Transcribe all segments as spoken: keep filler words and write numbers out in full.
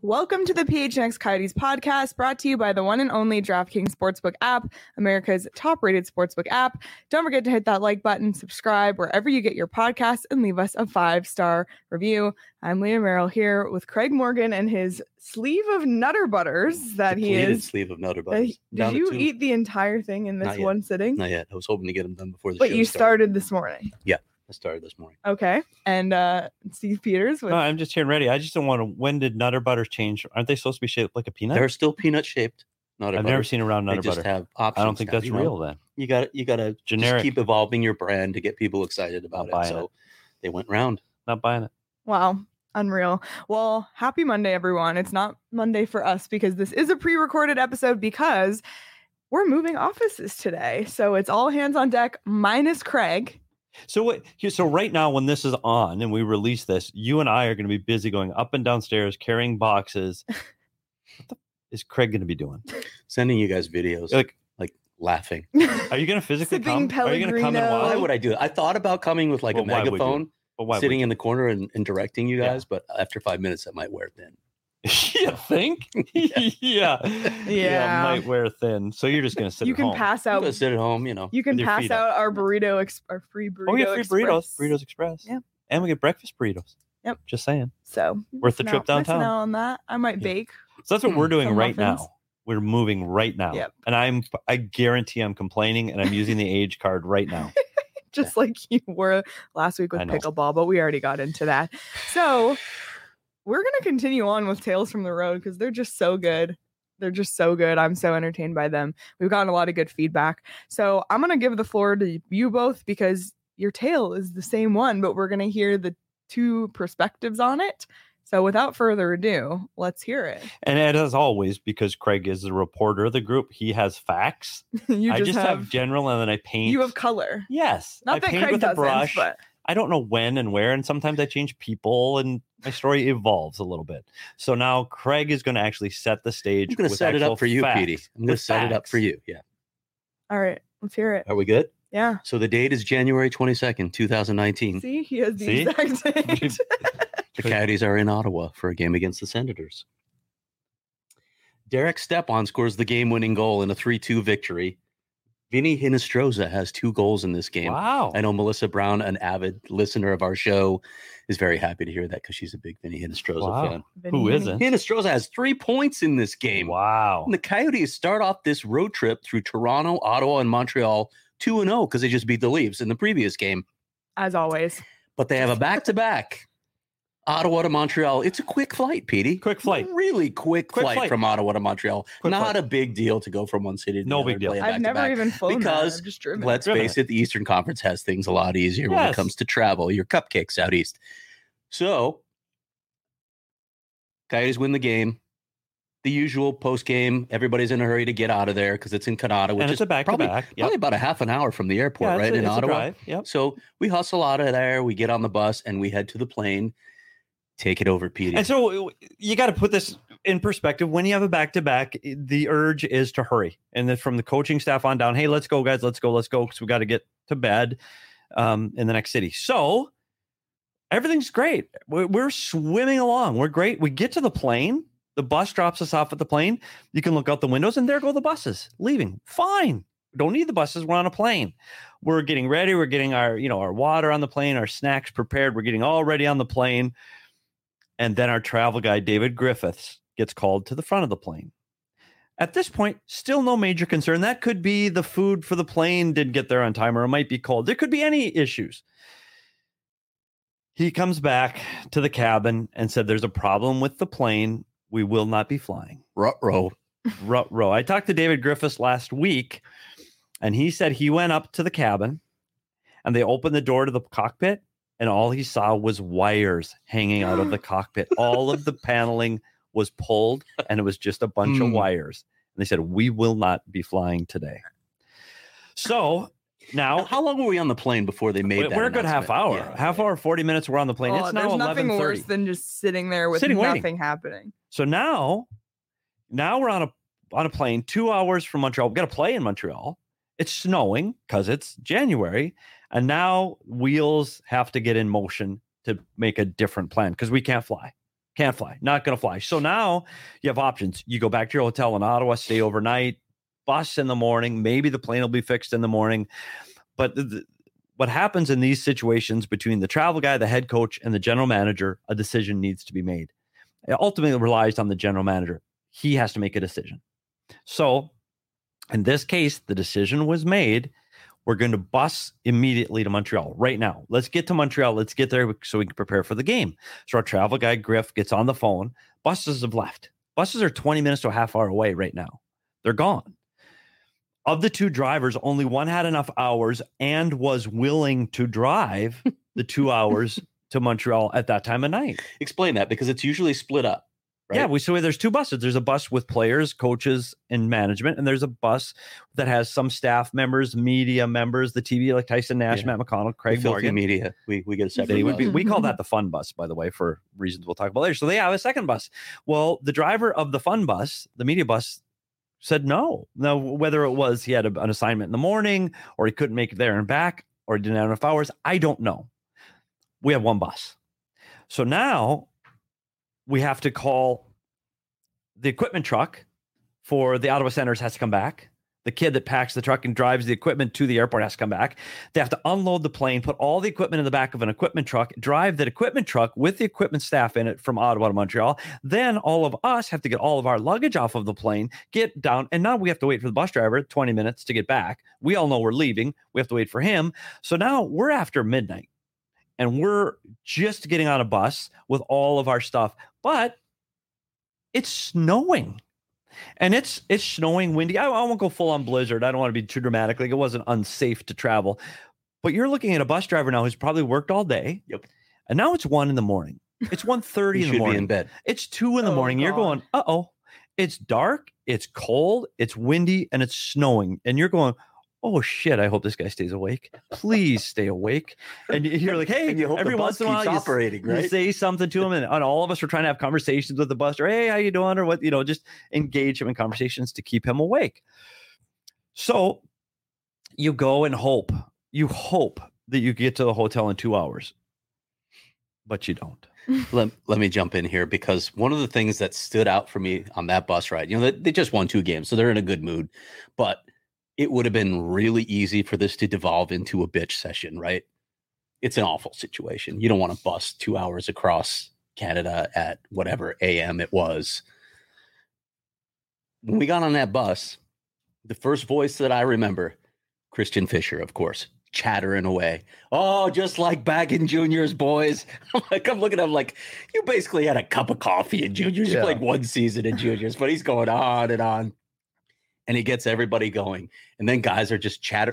Welcome to the P H N X Coyotes podcast, brought to you by the one and only DraftKings Sportsbook app, America's top-rated sportsbook app. Don't forget to hit that like button, subscribe wherever you get your podcasts, and leave us a five-star review. I'm Leah Merrill here with Craig Morgan and his sleeve of Nutter Butters that he is. sleeve of Nutter Butters. Uh, did you eat the entire thing in this one sitting? Not yet. I was hoping to get them done before the but show But you started. started this morning. Yeah. I started this morning. Okay. And uh, Steve Peters. With... No, I'm just here and ready. I just don't want to. When did Nutter Butters change? Aren't they supposed to be shaped like a peanut? They're still peanut shaped. Nutter I've Butters. never seen a round Nutter they just Butter. Have options I don't think now, that's you know? real then. You got you got to generic. Keep evolving your brand to get people excited about Not it. So it. They went round. Not buying it. Wow. Unreal. Well, happy Monday, everyone. It's not Monday for us because this is a pre-recorded episode because we're moving offices today. So it's all hands on deck minus Craig. So what? So right now, when this is on and we release this, you and I are going to be busy going up and downstairs carrying boxes. What the is Craig going to be doing? Sending you guys videos, like like laughing. Are you going to physically Sipping come? Are you going to come and watch? Why would I do it? I thought about coming with like well, a megaphone, but why sitting in the corner and, and directing you guys. Yeah. But after five minutes, I might wear thin. You think? yeah. yeah. Yeah. Might wear thin. So you're just going to sit you at can home. pass out. You sit at home, you know. You can pass out our burrito, ex- our free burrito. Oh, yeah, free Express. burritos. Burritos Express. Yeah. And we get breakfast burritos. Yep. Just saying. So worth the trip out, downtown. Out on that. I might yeah. bake. So that's what we're doing right muffins. now. We're moving right now. Yep. And I'm I guarantee I'm complaining and I'm using the age card right now. Just yeah. like you were last week with pickleball, but we already got into that. So we're going to continue on with Tales from the Road because they're just so good. They're just so good. I'm so entertained by them. We've gotten a lot of good feedback. So I'm going to give the floor to you both because your tale is the same one, but we're going to hear the two perspectives on it. So without further ado, let's hear it. And as always, because Craig is the reporter of the group, he has facts. you I just, just have, have general and then I paint. You have color. Yes. Not I that paint Craig with doesn't, a brush. But... I don't know when and where, and sometimes I change people, and my story evolves a little bit. So now Craig is going to actually set the stage. I'm going to set it up for you, Petey. I'm going to set it up for you. Yeah. All right. Let's hear it. Are we good? Yeah. So the date is January twenty-second, twenty nineteen. See, he has the See? exact date. The Coyotes are in Ottawa for a game against the Senators. Derek Stepan scores the game-winning goal in a three two victory. Vinny Hinostroza has two goals in this game. Wow. I know Melissa Brown, an avid listener of our show, is very happy to hear that because she's a big Vinny Hinostroza wow. fan. Vinny. Who isn't? Hinostroza has three points in this game. Wow. And the Coyotes start off this road trip through Toronto, Ottawa, and Montreal two and oh because they just beat the Leafs in the previous game. As always. But they have a back-to-back. Ottawa to Montreal. It's a quick flight, Petey. Quick flight. Really quick, quick flight, flight from Ottawa to Montreal. Quick Not flight. a big deal to go from one city to no the big deal. I've never back even flown because that. I've just driven. Let's driven face it. it, the Eastern Conference has things a lot easier yes. when it comes to travel. Your cupcakes out east. So, Coyotes win the game. The usual post game. Everybody's in a hurry to get out of there because it's in Canada, which and is it's a back probably, to back. probably about a half an hour from the airport, yeah, right a, in Ottawa. Drive. Yep. So we hustle out of there. We get on the bus and we head to the plane. Take it over, Petey. And so you got to put this in perspective. When you have a back-to-back, the urge is to hurry. And then from the coaching staff on down, hey, let's go, guys. Let's go. Let's go. Because we got to get to bed um, in the next city. So everything's great. We're, we're swimming along. We're great. We get to the plane. The bus drops us off at the plane. You can look out the windows, and there go the buses leaving. Fine. Don't need the buses. We're on a plane. We're getting ready. We're getting our, you know, our water on the plane, our snacks prepared. We're getting all ready on the plane. And then our travel guide, David Griffiths, gets called to the front of the plane. At this point, still no major concern. That could be the food for the plane didn't get there on time, or it might be cold. There could be any issues. He comes back to the cabin and said, there's a problem with the plane. We will not be flying. Ruh-roh. Ruh-roh. I talked to David Griffiths last week, and he said he went up to the cabin, and they opened the door to the cockpit, and all he saw was wires hanging out of the cockpit. All of the paneling was pulled, and it was just a bunch mm. of wires. And they said, we will not be flying today. So now, how long were we on the plane before they made we're that We're a good half hour. Yeah, half yeah. hour, forty minutes, we're on the plane. Oh, it's now there's nothing eleven thirty. worse than just sitting there with Sitting, nothing waiting. happening. So now, now we're on a on a plane two hours from Montreal. We've got to play in Montreal. It's snowing because it's January. And now wheels have to get in motion to make a different plan because we can't fly. Can't fly. Not going to fly. So now you have options. You go back to your hotel in Ottawa, stay overnight, bus in the morning. Maybe the plane will be fixed in the morning. But the, the, what happens in these situations between the travel guy, the head coach, and the general manager, a decision needs to be made. It ultimately relies on the general manager. He has to make a decision. So in this case, the decision was made. We're going to bus immediately to Montreal right now. Let's get to Montreal. Let's get there so we can prepare for the game. So our travel guy, Griff, gets on the phone. Buses have left. Buses are twenty minutes to a half hour away right now. They're gone. Of the two drivers, only one had enough hours and was willing to drive the two hours to Montreal at that time of night. Explain that, because it's usually split up. Right? Yeah, we so there's two buses. There's a bus with players, coaches, and management, and there's a bus that has some staff members, media members, the T V like Tyson Nash, Yeah. Matt McConnell, Craig The Morgan. media. We we get a separate. They would be, bus. we call that the fun bus, by the way, for reasons we'll talk about later. So they have a second bus. Well, the driver of the fun bus, the media bus, said no. Now, whether it was he had a, an assignment in the morning, or he couldn't make it there and back, or he didn't have enough hours, I don't know. We have one bus. So now we have to call the equipment truck for the Ottawa Senators has to come back. The kid that packs the truck and drives the equipment to the airport has to come back. They have to unload the plane, put all the equipment in the back of an equipment truck, drive that equipment truck with the equipment staff in it from Ottawa to Montreal. Then all of us have to get all of our luggage off of the plane, get down, and now we have to wait for the bus driver twenty minutes to get back. We all know we're leaving. We have to wait for him. So now we're after midnight, and we're just getting on a bus with all of our stuff. But it's snowing. And it's it's snowing, windy. I, I won't go full on blizzard. I don't want to be too dramatic. Like, it wasn't unsafe to travel. But you're looking at a bus driver now who's probably worked all day. Yep. And now it's one in the morning. It's one thirty You in the should morning. be in bed. It's two in the Oh, morning. You're God. going, uh-oh. It's dark, it's cold, it's windy, and it's snowing. And you're going, oh shit, I hope this guy stays awake. Please stay awake. And you're like, hey, And you hope every the bus once in a while keeps you, operating, you right? say something to him, and, and all of us are trying to have conversations with the bus driver. Hey, how you doing? Or what, you know, just engage him in conversations to keep him awake. So you go and hope, you hope that you get to the hotel in two hours, but you don't. Let, let me jump in here, because one of the things that stood out for me on that bus ride, you know, they, they just won two games, so they're in a good mood, but it would have been really easy for this to devolve into a bitch session, right? It's an awful situation. You don't want to bus two hours across Canada at whatever A M it was. When we got on that bus, the first voice that I remember, Christian Fisher, of course, chattering away. Oh, just like back in juniors, boys. I'm like, I'm looking at him like, you basically had a cup of coffee in juniors. You Yeah. played one season in juniors, but he's going on and on. And he gets everybody going. And then guys are just chatter.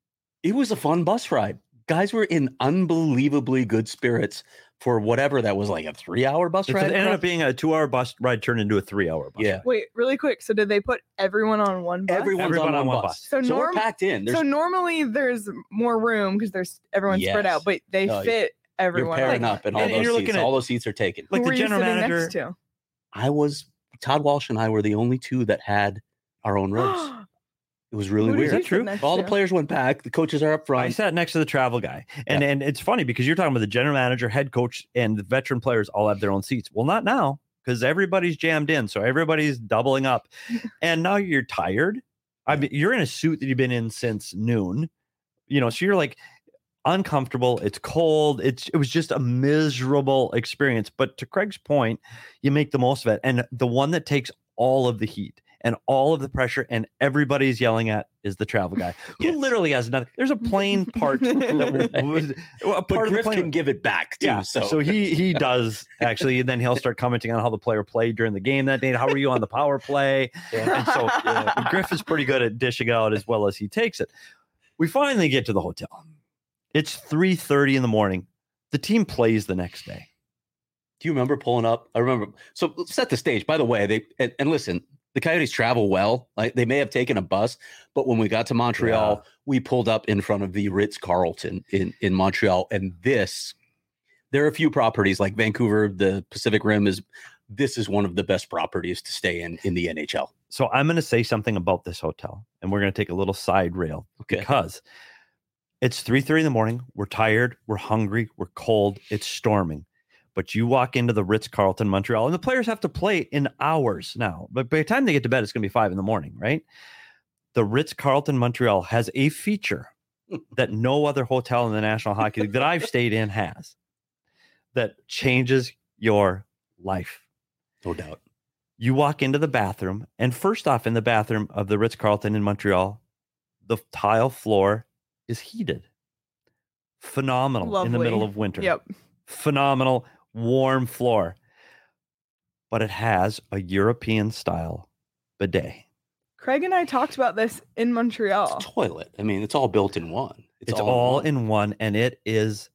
It was a fun bus ride. Guys were in unbelievably good spirits for whatever that was, like a three-hour bus It ride. ended across- up being a two-hour bus ride turned into a three-hour bus Yeah. ride. Wait, really quick. So did they put everyone on one bus? Everyone's Everyone on one bus. So So, norm- we're packed in. There's So normally there's more room because there's everyone's spread Yes. out, but they No, fit you're everyone. pairing Like, up, and all and- and those you're seats, looking at- all those seats are taken. Like who the were you general sitting manager. next to? I was Todd Walsh and I were the only two that had our own rows. It was really Who did weird. you Is that true? sit next All the to? players went back. The coaches are up I front. sat next to the travel guy. And Yeah. and it's funny because you're talking about the general manager, head coach, and the veteran players all have their own seats. Well, not now, because everybody's jammed in. So everybody's doubling up. And now you're tired. I mean, you're in a suit that you've been in since noon. You know, so you're like uncomfortable. It's cold. It's it was just a miserable experience. But to Craig's point, you make the most of it. And the one that takes all of the heat and all of the pressure and everybody's yelling at is the travel guy, who Yes. literally has nothing. There's a plane part that was a But part of the Griff plane. can give it back too. Yeah, So, so he he does actually, and then he'll start commenting on how the player played during the game that day. How were you on the power play? And so uh, Griff is pretty good at dishing out as well as he takes it. We finally get to the hotel. It's three thirty in the morning. The team plays the next day. do you remember pulling up? I remember. So let's set the stage. By the way, they and, and listen, the Coyotes travel well. Like they may have taken a bus, but when we got to Montreal, Yeah. we pulled up in front of the Ritz Carlton in in Montreal, and this. There are a few properties like Vancouver, the Pacific Rim is. This is one of the best properties to stay in in the N H L. So I'm going to say something about this hotel, and we're going to take a little side rail Okay. because it's three thirty in the morning. We're tired. We're hungry. We're cold. It's storming. But you walk into the Ritz-Carlton Montreal, and the players have to play in hours now. But by the time they get to bed, it's going to be five in the morning, right? The Ritz-Carlton Montreal has a feature that no other hotel in the National Hockey League that I've stayed in has that changes your life. No doubt. You walk into the bathroom, and first off, in the bathroom of the Ritz-Carlton in Montreal, the tile floor is heated. Phenomenal. Lovely. In the middle of winter. Yep. Phenomenal, warm floor. But it has a European-style bidet. Craig and I talked about this in Montreal. It's a toilet. I mean, it's all built in one. It's, it's all, all in, one. in one, and it is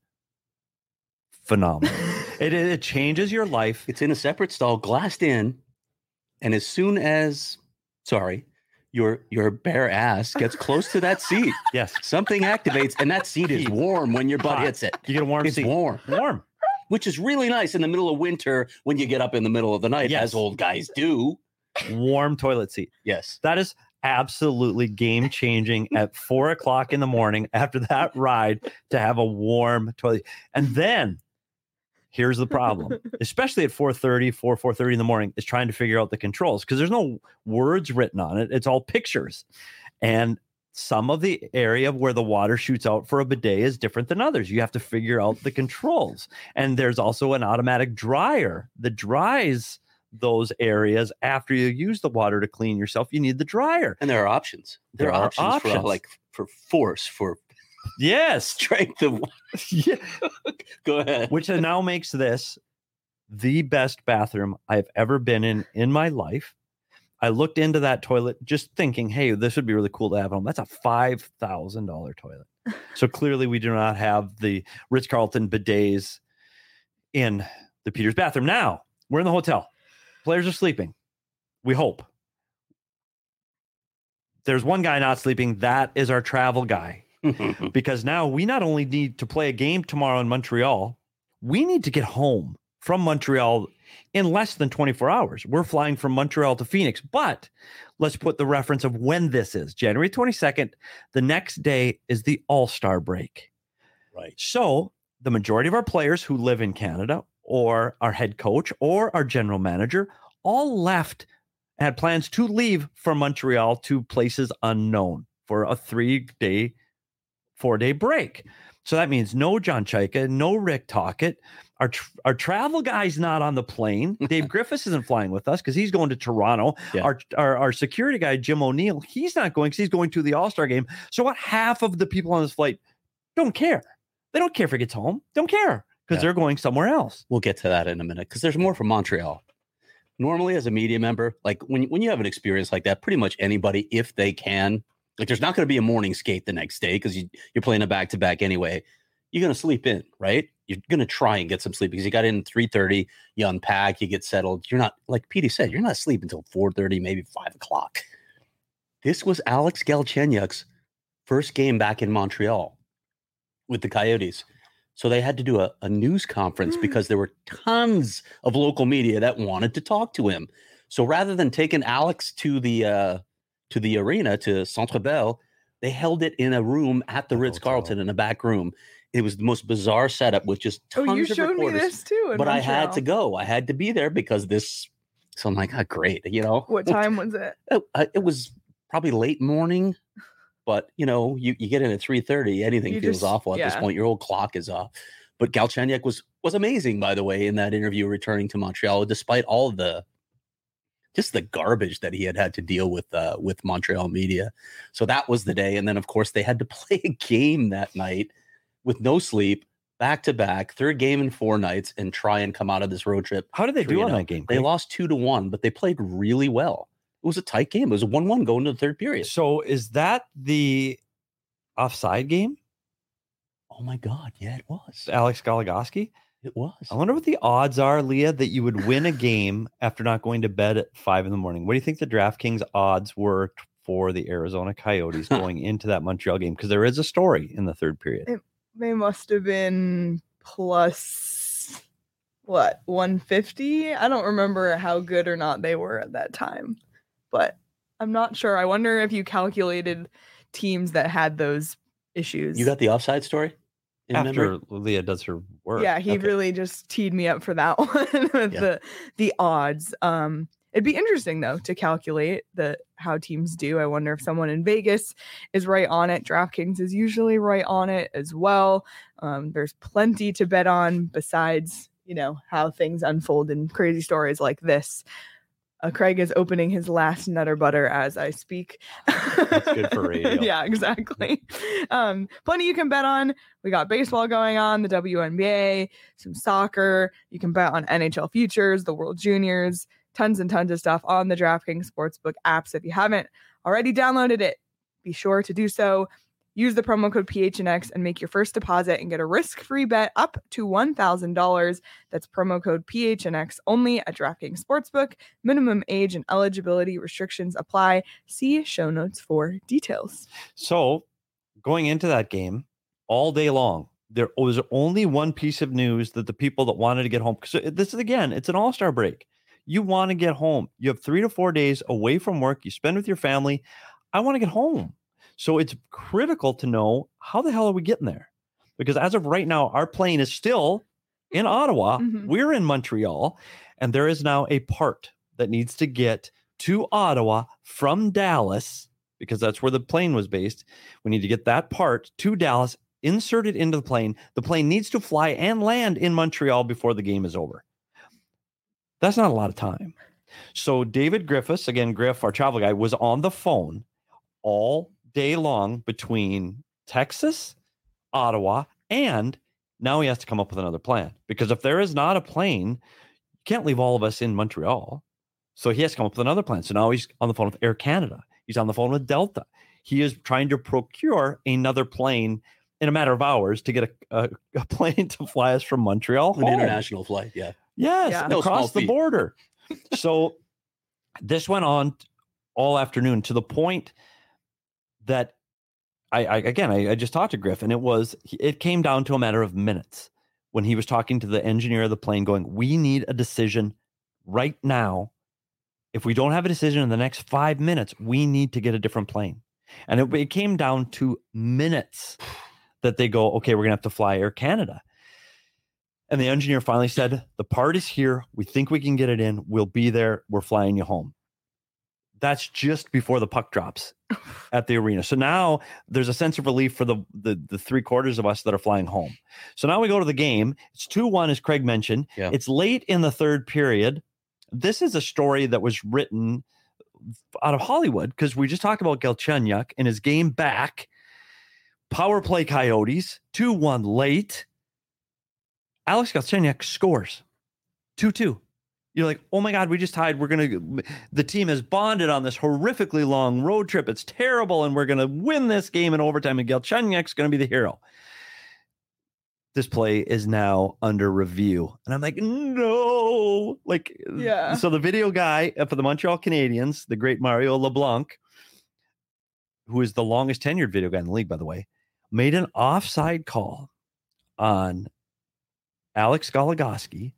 phenomenal. it, it changes your life. It's in a separate stall, glassed in, and as soon as, sorry, your your bare ass gets close to that seat, yes, something activates, and that seat is warm when your butt Hot. hits it. You get a warm it's seat. warm. Warm. Which is really nice in the middle of winter when you get up in the middle of the night, yes. as old guys do. Warm toilet seat. Yes. That is absolutely game changing at four o'clock in the morning after that ride to have a warm toilet. And then here's the problem, especially at four thirty, four, four thirty in the morning, is trying to figure out the controls because there's no words written on it. It's all pictures. And some of the area where the water shoots out for a bidet is different than others. You have to figure out the controls. And there's also an automatic dryer that dries those areas after you use the water to clean yourself. You need the dryer. And there are options. There, there are, are options, options for like for force, for yes, strength of yeah. Go ahead. Which now makes this the best bathroom I've ever been in in my life. I looked into that toilet just thinking, hey, this would be really cool to have at home. That's a five thousand dollars toilet. So clearly we do not have the Ritz-Carlton bidets in the Peters bathroom. Now we're in the hotel. Players are sleeping. We hope. There's one guy not sleeping. That is our travel guy. Because now we not only need to play a game tomorrow in Montreal, we need to get home from Montreal in less than twenty-four hours. We're flying from Montreal to Phoenix, but let's put the reference of when this is. January twenty-second. The next day is the All-Star break. Right. So the majority of our players who live in Canada, or our head coach, or our general manager, all left, had plans to leave from Montreal to places unknown for a three-day, four-day break. So that means no John Chaika, no Rick Tocchet. Our, tr- our travel guy's not on the plane. Dave Griffiths isn't flying with us because he's going to Toronto. Yeah. Our, our our security guy, Jim O'Neill, he's not going because he's going to the All-Star game. So what? Half of the people on this flight don't care. They don't care if he gets home. Don't care. Because yeah. they're going somewhere else. We'll get to that in a minute because there's more from Montreal. Normally, as a media member, like when, when you have an experience like that, pretty much anybody, if they can, like there's not going to be a morning skate the next day because you, you're playing a back-to-back anyway. You're going to sleep in, right? You're going to try and get some sleep because you got in three thirty, you unpack, you get settled. You're not, like Petey said, you're not sleeping until four thirty, maybe five o'clock. This was Alex Galchenyuk's first game back in Montreal with the Coyotes. So they had to do a, a news conference because there were tons of local media that wanted to talk to him. So rather than taking Alex to the uh, to the arena, to Centre Bell, they held it in a room at the Ritz-Carlton in a back room. It was the most bizarre setup with just tons oh, you of showed reporters. Me this too. But Montreal. I had to go. I had to be there because this. So I'm like, oh, great. You know, what time was it? It, it was probably late morning. But, you know, you, you get in at three thirty, anything you feels just, awful at yeah. this point. Your whole clock is off. But Galchenyuk was was amazing, by the way, in that interview returning to Montreal, despite all the just the garbage that he had had to deal with uh, with Montreal media. So that was the day. And then, of course, they had to play a game that night with no sleep, back to back, third game in four nights, and try and come out of this road trip. How did they do on that game? They Craig? lost two to one, but they played really well. It was a tight game. It was a one one going to the third period. So is that the offside game? Oh, my God. Yeah, it was. Alex Goligoski? It was. I wonder what the odds are, Leah, that you would win a game after not going to bed at five in the morning. What do you think the DraftKings odds were for the Arizona Coyotes going into that Montreal game? Because there is a story in the third period. It, they must have been plus, what, one fifty? I don't remember how good or not they were at that time. But I'm not sure. I wonder if you calculated teams that had those issues. You got the offside story? in After memory? Leah does her work. Yeah, he Okay. really just teed me up for that one with Yeah. the the odds. Um, it'd be interesting though to calculate the how teams do. I wonder if someone in Vegas is right on it. DraftKings is usually right on it as well. Um, there's plenty to bet on besides, you know, how things unfold in crazy stories like this. Uh, Craig is opening his last Nutter Butter as I speak. That's good for radio. Yeah, exactly. Um, plenty you can bet on. We got baseball going on, the W N B A, some soccer. You can bet on N H L futures, the World Juniors, tons and tons of stuff on the DraftKings Sportsbook apps. If you haven't already downloaded it, be sure to do so. Use the promo code P H N X and make your first deposit and get a risk-free bet up to one thousand dollars. That's promo code P H N X only at DraftKings Sportsbook. Minimum age and eligibility restrictions apply. See show notes for details. So going into that game all day long, there was only one piece of news that the people that wanted to get home, because this is, again, it's an all-star break. You want to get home. You have three to four days away from work. You spend with your family. I want to get home. So it's critical to know, how the hell are we getting there? Because as of right now, our plane is still in Ottawa. Mhm. We're in Montreal, and there is now a part that needs to get to Ottawa from Dallas, because that's where the plane was based. We need to get that part to Dallas, inserted into the plane. The plane needs to fly and land in Montreal before the game is over. That's not a lot of time. So David Griffiths, again, Griff, our travel guy, was on the phone all day long between Texas, Ottawa, and now he has to come up with another plan, because if there is not a plane, you can't leave all of us in Montreal. So he has to come up with another plan. So now he's on the phone with Air Canada. He's on the phone with Delta. He is trying to procure another plane in a matter of hours to get a, a, a plane to fly us from Montreal An home. international flight. Yeah. Yes, Yeah. No small across the feat. border. So this went on all afternoon, to the point that I, I again, I, I just talked to Griff, and it was, it came down to a matter of minutes when he was talking to the engineer of the plane going, we need a decision right now. If we don't have a decision in the next five minutes, we need to get a different plane. And it, it came down to minutes that they go, okay, we're going to have to fly Air Canada. And the engineer finally said, the part is here. We think we can get it in. We'll be there. We're flying you home. That's just before the puck drops at the arena. So now there's a sense of relief for the, the, the three quarters of us that are flying home. So now we go to the game. It's two one, as Craig mentioned. Yeah. It's late in the third period. This is a story that was written out of Hollywood, because we just talked about Galchenyuk and his game back. Power play Coyotes, two one late. Alex Galchenyuk scores two two. You're like, oh my God, we just tied. We're going to, the team has bonded on this horrifically long road trip. It's terrible. And we're going to win this game in overtime. And Galchenyuk's going to be the hero. This play is now under review. And I'm like, no. Like, Yeah. So the video guy for the Montreal Canadiens, the great Mario LeBlanc, who is the longest tenured video guy in the league, by the way, made an offside call on Alex Goligoski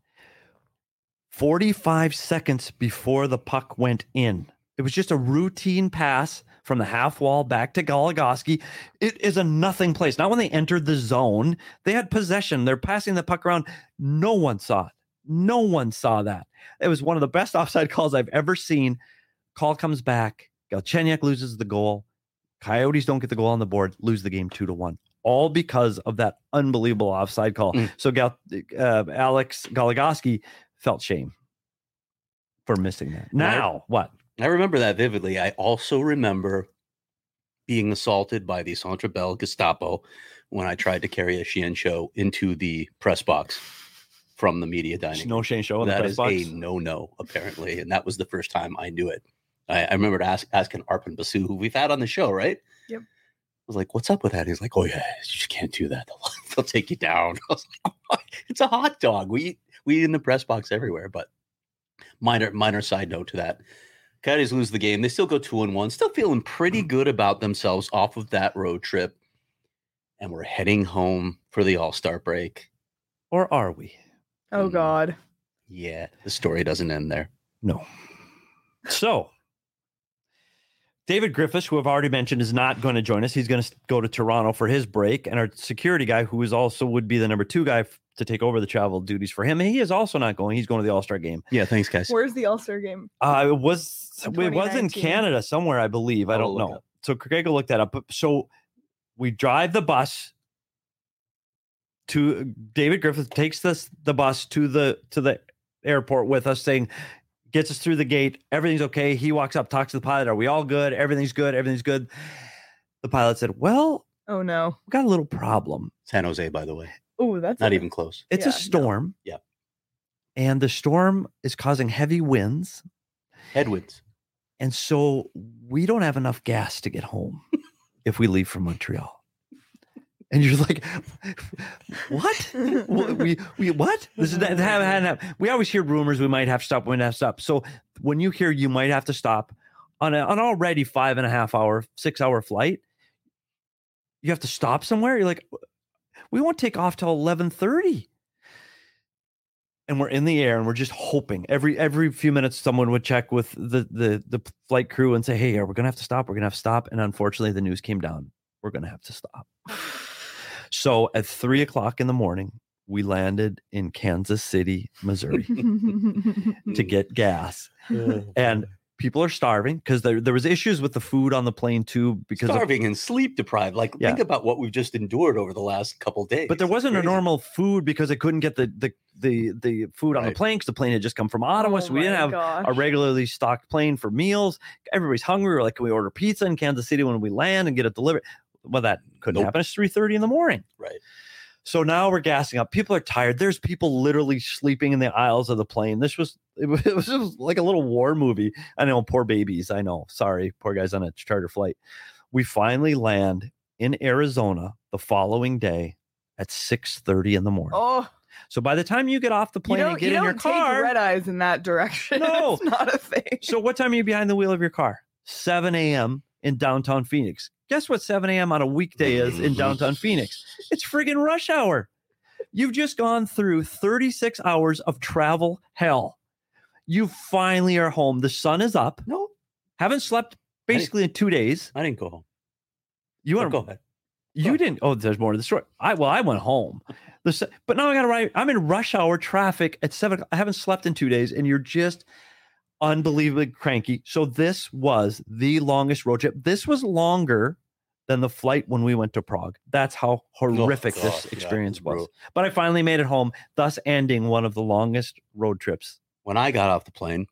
forty-five seconds before the puck went in. It was just a routine pass from the half wall back to Goligoski. It is a nothing place. Not when they entered the zone. They had possession. They're passing the puck around. No one saw it. No one saw that. It was one of the best offside calls I've ever seen. Call comes back. Galchenyuk loses the goal. Coyotes don't get the goal on the board, lose the game two to one. All because of that unbelievable offside call. Mm. So Gal, uh, Alex Goligoski felt shame for missing that. Now, I, what? I remember that vividly. I also remember being assaulted by the Centre Bell Gestapo when I tried to carry a Sheehan show into the press box from the media dining. No Shane show in the That press is box? a no-no, apparently. And that was the first time I knew it. I, I remember ask, asking Arpon Basu, who we've had on the show, right? Yep. I was like, what's up with that? He's like, oh, yeah, you just can't do that. They'll, they'll take you down. I was like, oh, it's a hot dog. We eat, we eat in the press box everywhere. But minor minor side note to that. Coyotes lose the game. They still go two and one, still feeling pretty good about themselves off of that road trip. And we're heading home for the All-Star break. Or are we? Oh Mm. God. Yeah, the story doesn't end there. No. So, David Griffiths, who I've already mentioned, is not going to join us. He's going to go to Toronto for his break. And our security guy, who is also would be the number two guy f- to take over the travel duties for him, he is also not going. He's going to the All-Star game. Yeah, thanks, guys. Where's the All-Star game? Uh, it was it was in Canada somewhere, I believe. I don't know. Up. So Craig will look that up. But so we drive the bus to David Griffith takes this the bus to the to the airport with us, saying, gets us through the gate. Everything's okay. He walks up, talks to the pilot. Are we all good? Everything's good. Everything's good. The pilot said, well, oh no, we got a little problem. San Jose, by the way. Oh, that's not a, even close. It's yeah, a storm. No. Yeah. And the storm is causing heavy winds. Headwinds. And so we don't have enough gas to get home if we leave from Montreal. And you're like, what? we we what? This is that haven't We always hear rumors we might have to stop, we might have to stop. So when you hear you might have to stop on a, an already five and a half hour, six hour flight, you have to stop somewhere. You're like, we won't take off till eleven thirty. And we're in the air and we're just hoping every every few minutes someone would check with the the the flight crew and say, hey, are we gonna have to stop? We're gonna have to stop. And unfortunately, the news came down. We're gonna have to stop. So at three o'clock in the morning, we landed in Kansas City, Missouri to get gas. And people are starving because there, there was issues with the food on the plane too. Because starving of, and sleep deprived. Like yeah. think about what we've just endured over the last couple of days. But there wasn't a normal food because they couldn't get the the the, the food on right. the plane because the plane had just come from Ottawa. Oh so we didn't have gosh. a regularly stocked plane for meals. Everybody's hungry. We're like, can we order pizza in Kansas City when we land and get it delivered? Well, that couldn't nope. happen. It's three thirty in the morning. Right. So now we're gassing up. People are tired. There's people literally sleeping in the aisles of the plane. This was, it was, it was just like a little war movie. I know, poor babies. I know. Sorry, poor guys on a charter flight. We finally land in Arizona the following day at six thirty in the morning. Oh. So by the time you get off the plane and get you in your don't car. Take red eyes in that direction. No. It's not a thing. So what time are you behind the wheel of your car? seven a.m. in downtown Phoenix. Guess what seven a.m. on a weekday is in downtown Phoenix? It's friggin' rush hour. You've just gone through thirty-six hours of travel hell. You finally are home. The sun is up. No. Haven't slept basically in two days. I didn't go home. You want to go ahead. You go didn't. Oh, there's more to the story. I well, I went home. The, but now I got to ride. I'm in rush hour traffic at seven. I haven't slept in two days, and you're just unbelievably cranky. So this was the longest road trip. This was longer than the flight when we went to Prague. That's how horrific oh, God, this experience yeah, was. But I finally made it home, thus ending one of the longest road trips. When I got off the plane,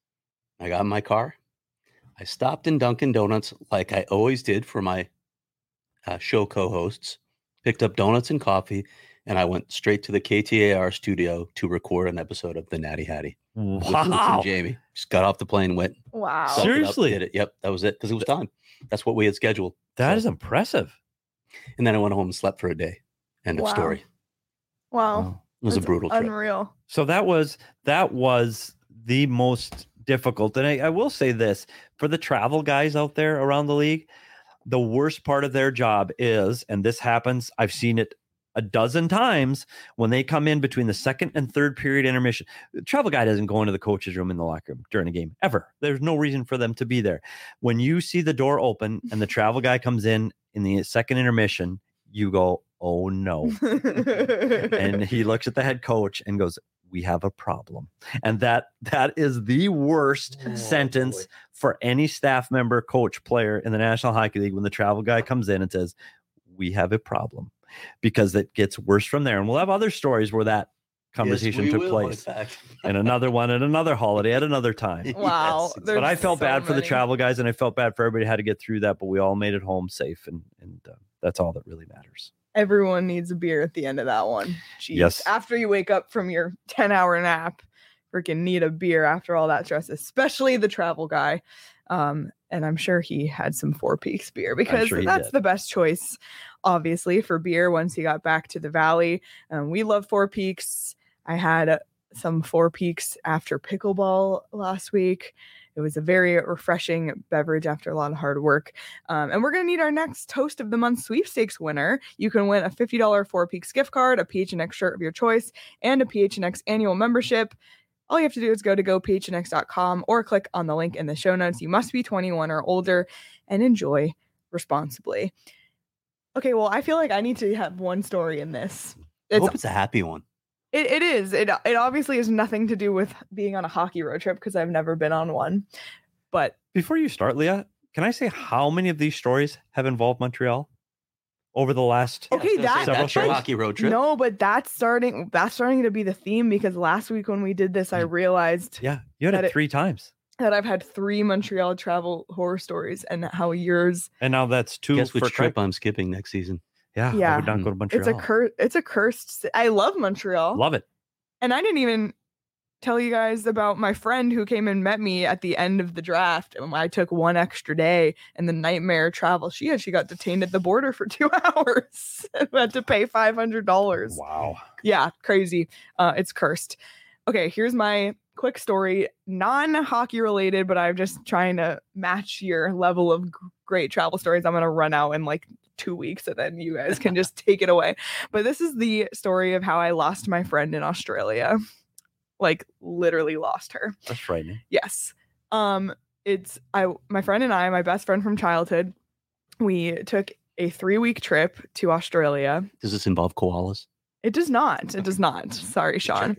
I got in my car. I stopped in Dunkin' Donuts like I always did for my uh, show co-hosts, picked up donuts and coffee, and I went straight to the K T A R studio to record an episode of the Natty Hattie. Wow. With Jamie. Just got off the plane, went. Wow. Seriously? Up, did it. Yep, that was it because it was time. That's what we had scheduled. That so. is impressive. And then I went home and slept for a day. End wow. of story. Wow. wow. It was That's a brutal trip. Unreal. So that was that was the most difficult. And I, I will say this, for the travel guys out there around the league, the worst part of their job is, and this happens, I've seen it a dozen times, when they come in between the second and third period intermission. The travel guy doesn't go into the coach's room in the locker room during a game ever. There's no reason for them to be there. When you see the door open and the travel guy comes in in the second intermission, you go, oh no. And he looks at the head coach and goes, we have a problem. And that that is the worst oh, sentence boy. for any staff member, coach, player in the National Hockey League when the travel guy comes in and says, we have a problem. Because it gets worse from there. And we'll have other stories where that conversation yes, took will, place. And another one at another holiday at another time. Wow. Yes. But I felt so bad for many. the travel guys, and I felt bad for everybody who had to get through that, but we all made it home safe, and, and uh, that's all that really matters. Everyone needs a beer at the end of that one. Jeez. Yes. After you wake up from your ten hour nap, freaking need a beer after all that stress, especially the travel guy. Um, and I'm sure he had some Four Peaks beer because sure that's did. the best choice, obviously, for beer once he got back to the Valley. Um, we love Four Peaks. I had uh, some Four Peaks after pickleball last week. It was a very refreshing beverage after a lot of hard work. Um, and we're going to need our next Toast of the Month sweepstakes winner. You can win a fifty dollars Four Peaks gift card, a P H N X shirt of your choice, and a P H N X annual membership. all you have to do is go to go p h n x dot com or click on the link in the show notes. You must be twenty-one or older and enjoy responsibly. Okay, well, I feel like I need to have one story in this. I hope it's a happy one. It, it is. It, it obviously has nothing to do with being on a hockey road trip because I've never been on one. But before you start, Leah, can I say how many of these stories have involved Montreal over the last okay that, that's your hockey road trip? No, but that's starting that's starting to be the theme because last week when we did this, I realized yeah, you had it, it three times. That I've had three Montreal travel horror stories and how yours and now that's two. Guess which for trip I'm skipping next season. Yeah, yeah. I would not go to Montreal. It's a cur- It's a cursed. I love Montreal. Love it. And I didn't even tell you guys about my friend who came and met me at the end of the draft. And I took one extra day and the nightmare travel. She actually got detained at the border for two hours and had to pay five hundred dollars. Wow. Yeah, crazy. Uh, it's cursed. Okay, here's my quick story. Non-hockey related, but I'm just trying to match your level of g- great travel stories. I'm going to run out in like two weeks and then you guys can just take it away. But this is the story of how I lost my friend in Australia. Like literally lost her. That's frightening. Yes. Um, it's I my friend and I, my best friend from childhood, we took a three-week trip to Australia. Does this involve koalas? It does not. It does not. Sorry, Sean.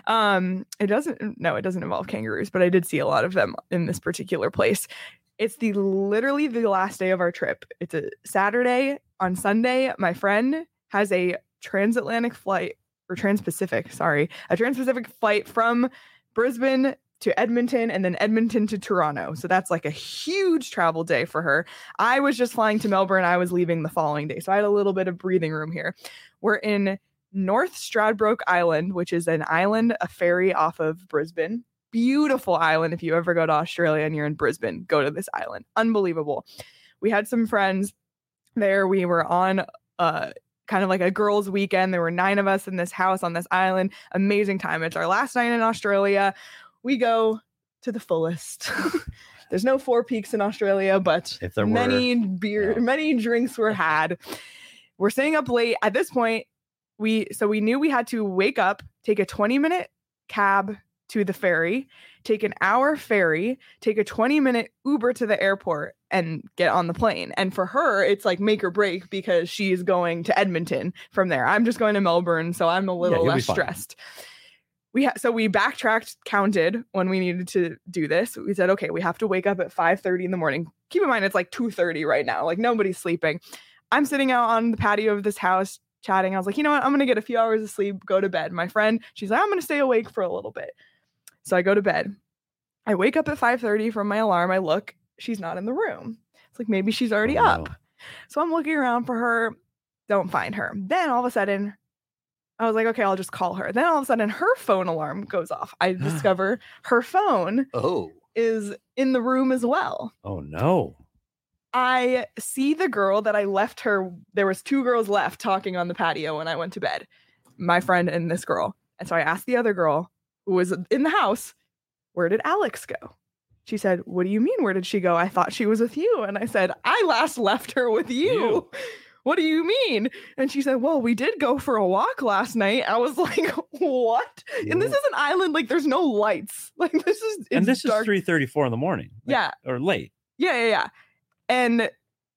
Um, it doesn't. No, it doesn't involve kangaroos, but I did see a lot of them in this particular place. It's the literally the last day of our trip. It's a Saturday. On Sunday, my friend has a transatlantic flight or trans-Pacific, sorry, a trans-Pacific flight from Brisbane to Edmonton and then Edmonton to Toronto. So that's like a huge travel day for her. I was just flying to Melbourne. I was leaving the following day. So I had a little bit of breathing room here. We're in North Stradbroke Island, which is an island, a ferry off of Brisbane. Beautiful island. If you ever go to Australia and you're in Brisbane, go to this island. Unbelievable. We had some friends there. We were on uh, kind of like a girls' weekend. There were nine of us in this house on this island. Amazing time. It's our last night in Australia. We go to the fullest. There's no Four Peaks in Australia, but if there many were, beer, yeah. many drinks were had. We're staying up late. At this point, we so we knew we had to wake up, take a twenty minute cab to the ferry, take an hour ferry, take a twenty minute Uber to the airport and get on the plane. And for her, it's like make or break because she's going to Edmonton from there. I'm just going to Melbourne, so I'm a little yeah, less stressed. We ha- so we backtracked, counted when we needed to do this. We said, okay, we have to wake up at five thirty in the morning. Keep in mind, it's like two thirty right now. Like nobody's sleeping. I'm sitting out on the patio of this house chatting. I was like, you know what? I'm going to get a few hours of sleep, go to bed. My friend, she's like, I'm going to stay awake for a little bit. So I go to bed. I wake up at five thirty from my alarm. I look, she's not in the room. It's like, maybe she's already oh, up. no. So I'm looking around for her. Don't find her. Then all of a sudden, I was like, okay, I'll just call her. Then all of a sudden, her phone alarm goes off. I discover her phone oh. is in the room as well. Oh, no. I see the girl that I left her. There was two girls left talking on the patio when I went to bed, my friend and this girl. And so I asked the other girl who was in the house, where did Alex go? She said, what do you mean? Where did she go? I thought she was with you. And I said, I last left her with you. you. What do you mean? And she said, well, we did go for a walk last night. I was like, what? Yeah. And this is an island. Like there's no lights. Like this is, it's and this dark. is three thirty-four in the morning. Like, yeah. Or late. Yeah, yeah, yeah. And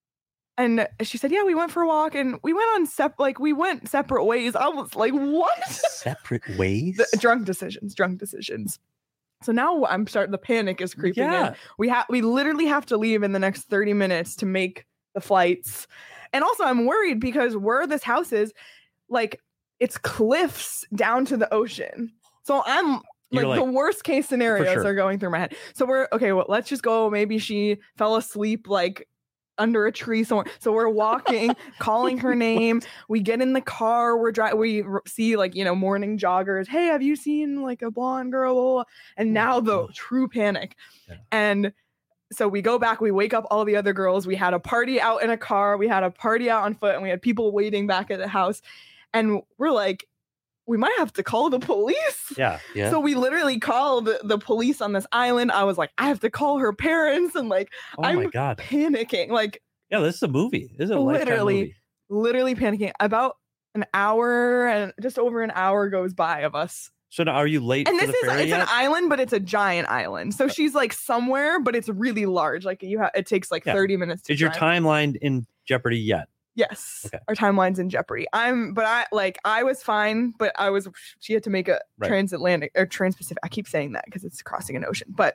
and she said, yeah, we went for a walk and we went on sep like we went separate ways. I was like, what? Separate ways? The, drunk decisions, drunk decisions. So now I'm starting, the panic is creeping Yeah. in. We have we literally have to leave in the next thirty minutes to make the flights. And also I'm worried because where this house is, like it's cliffs down to the ocean. So I'm like, like, the worst case scenarios sure. are going through my head. So we're okay, well, let's just go. Maybe she fell asleep like under a tree somewhere. So we're walking, calling her name. We get in the car. We're driving. We r- see like, you know, morning joggers. Hey, have you seen like a blonde girl? And now the true panic. Yeah. And so we go back. We wake up all the other girls. We had a party out in a car. We had a party out on foot, and we had people waiting back at the house. And we're like, we might have to call the police. Yeah. Yeah. So we literally called the police on this island. I was like, I have to call her parents. And like, Oh I'm my God. panicking. Like, Yeah, this is a movie. This is a lifetime literally, movie. literally panicking. About an hour and just over an hour goes by of us So now, are you late? And for this the is ferry it's yet? an island, but it's a giant island. So she's like somewhere, but it's really large. Like you have, it takes like Yeah. thirty minutes to Is your drive. timeline in jeopardy yet? Yes. Okay. Our timeline's in jeopardy. I'm, but I like, I was fine, but I was, she had to make a Right. transatlantic or trans-Pacific. I keep saying that because it's crossing an ocean. But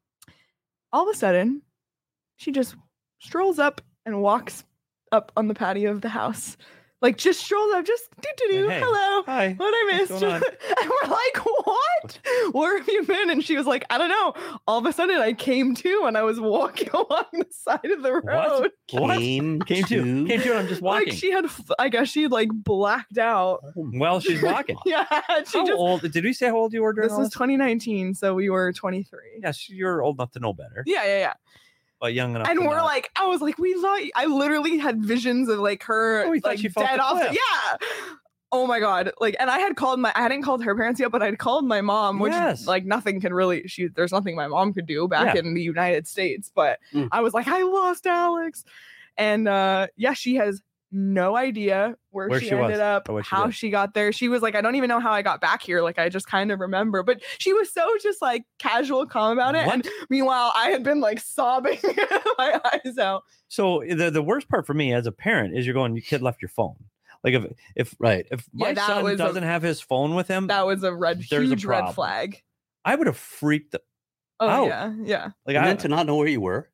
all of a sudden, she just strolls up and walks up on the patio of the house. Like just strolls up, just do do do. Hey, Hello. Hi. What I What's missed. going on? And we're like, what? Where have you been? And she was like, I don't know. All of a sudden I came to and I was walking along the side of the road. What? Came, Came to. Came to. And I'm just walking. Like she had, f- I guess she like blacked out. well, she's walking. Yeah. She How just, old? Did we say how old you were during this all was twenty nineteen. So we were twenty-three. Yes, you're old enough to know better, Yeah. Yeah. Yeah. but young enough. And to we're not. like, I was like, we thought, I literally had visions of like her, Oh, we thought like she fell off dead the off. The, cliff. yeah. Oh my God. Like, and I had called my, I hadn't called her parents yet, but I'd called my mom, which Yes. like nothing can really, she, there's nothing my mom could do back Yeah. in the United States. But Mm. I was like, I lost Alex. And uh yeah, she has no idea where, Where she, she was ended up, or what she how did. she got there. She was like, I don't even know how I got back here. Like, I just kind of remember, but she was so just like casual, calm about it. What? And meanwhile, I had been like sobbing my eyes out. So the the worst part for me as a parent is you're going, your kid left your phone. Like if if Right. if Yeah, my that son was a- doesn't have his phone with him, That was a red, There's a huge red problem. flag. I would have freaked. The, Oh Out. yeah, yeah. like and I then to not know where you were.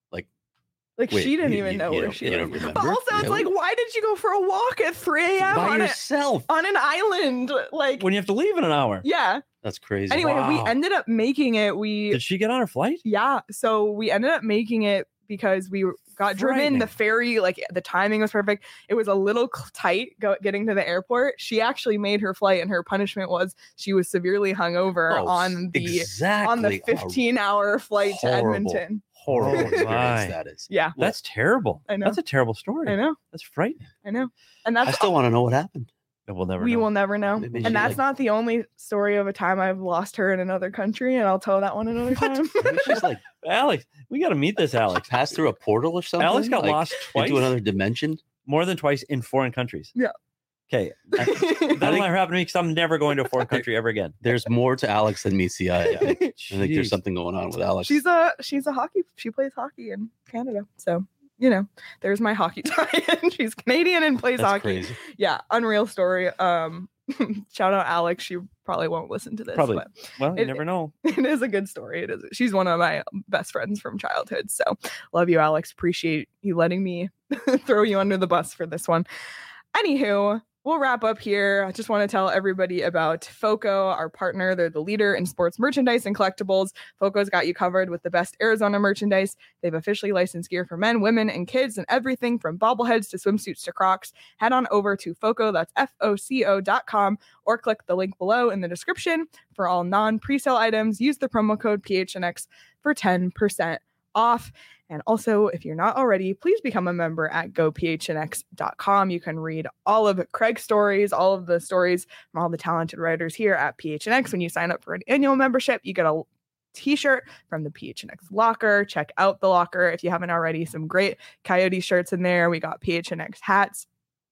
Like Wait, she didn't you- even you- know you where don't- she you was. don't But remember? also, it's Really? like, why did you go for a walk at three a.m. By on, a, yourself. on an island? Like, when you have to leave in an hour. yeah. That's crazy. Anyway, we Wow. ended up making it. We Did she get on her flight? Yeah. So we ended up making it because we got driven. Frightening. The ferry, like the timing was perfect. It was a little cl- tight go- getting to the airport. She actually made her flight, and her punishment was she was severely hungover Oh, on the exactly. on the fifteen hour flight to horrible. Edmonton. horrible Oh, experience my. that is. Yeah, That's terrible. I know. That's a terrible story. I know. That's frightening. I know. And I that's still want to know what happened. We'll never. we know. will never know. Maybe she, And that's like- not the only story of a time I've lost her in another country, and I'll tell that one another time. Maybe she's like Alex, we got to meet this Alex. passed through a portal or something. Alex got like, lost twice, into another dimension. more than twice in foreign countries. Yeah. Okay. That'll think- never happen to me because I'm never going to a foreign country ever again. There's more to Alex than meets the eye. I think, I think there's Jeez. something going on with Alex. she's a she's a hockey. She plays hockey in Canada, so you know, there's my hockey tie-in. She's Canadian and plays That's hockey. crazy. Yeah, unreal story. Um, shout out Alex. She probably won't listen to this, Probably. but Well, you It- never know. it is a good story. It is. She's one of my best friends from childhood. So love you, Alex. Appreciate you letting me throw you under the bus for this one. Anywho, we'll wrap up here. I just want to tell everybody about FOCO, our partner. They're the leader in sports merchandise and collectibles. FOCO's got you covered with the best Arizona merchandise. They've officially licensed gear for men, women, and kids, and everything from bobbleheads to swimsuits to Crocs. Head on over to FOCO, that's F O C O dot com, or click the link below in the description for all non-presale items. Use the promo code P H N X for ten percent off. And also, if you're not already, please become a member at go p h n x dot com. You can read all of Craig's stories, all of the stories from all the talented writers here at P H N X. When you sign up for an annual membership, you get a t-shirt from the P H N X locker. Check out the locker if you haven't already. Some great Coyote shirts in there. We got P H N X hats.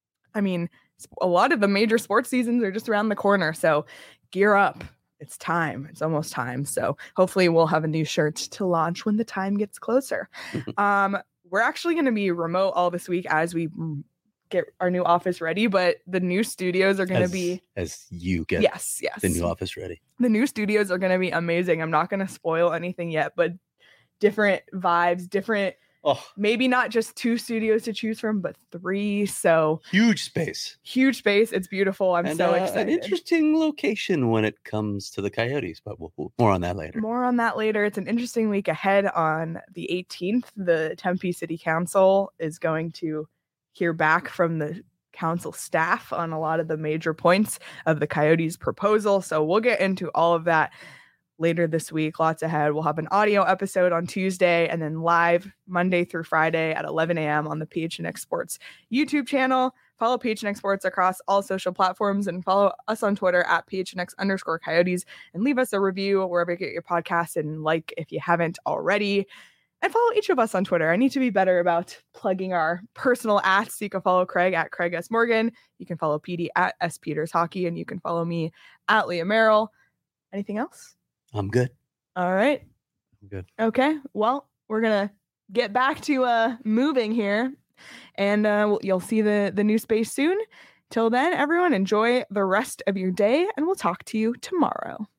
I mean, a lot of the major sports seasons are just around the corner. So gear up. It's time. It's almost time. So hopefully we'll have a new shirt to launch when the time gets closer. um, we're actually going to be remote all this week as we mm, get our new office ready, but the new studios are going to As, be as you get yes, yes. the new office ready. The new studios are going to be amazing. I'm not going to spoil anything yet, but different vibes, different, Oh, maybe not just two studios to choose from, but three. So huge space. huge space. It's beautiful. I'm and so uh, an excited. interesting location when it comes to the Coyotes, but we'll, we'll more on that later. More on that later. It's an interesting week ahead. On the eighteenth, the Tempe City Council is going to hear back from the council staff on a lot of the major points of the Coyotes proposal. So we'll get into all of that later this week. Lots ahead. We'll have an audio episode on Tuesday and then live Monday through Friday at eleven a.m. on the P H N X Sports YouTube channel. Follow P H N X Sports across all social platforms and follow us on Twitter at P H N X underscore Coyotes and leave us a review wherever you get your podcast and like if you haven't already. And follow each of us on Twitter. I need to be better about plugging our personal ats. So you can follow Craig at Craig S. Morgan. You can follow P D at S. Peters Hockey. And you can follow me at Leah Merrill. Anything else? I'm good. All right. I'm good. Okay. Well, we're going to get back to uh, moving here. And uh, you'll see the, the new space soon. Till then, everyone, enjoy the rest of your day. And we'll talk to you tomorrow.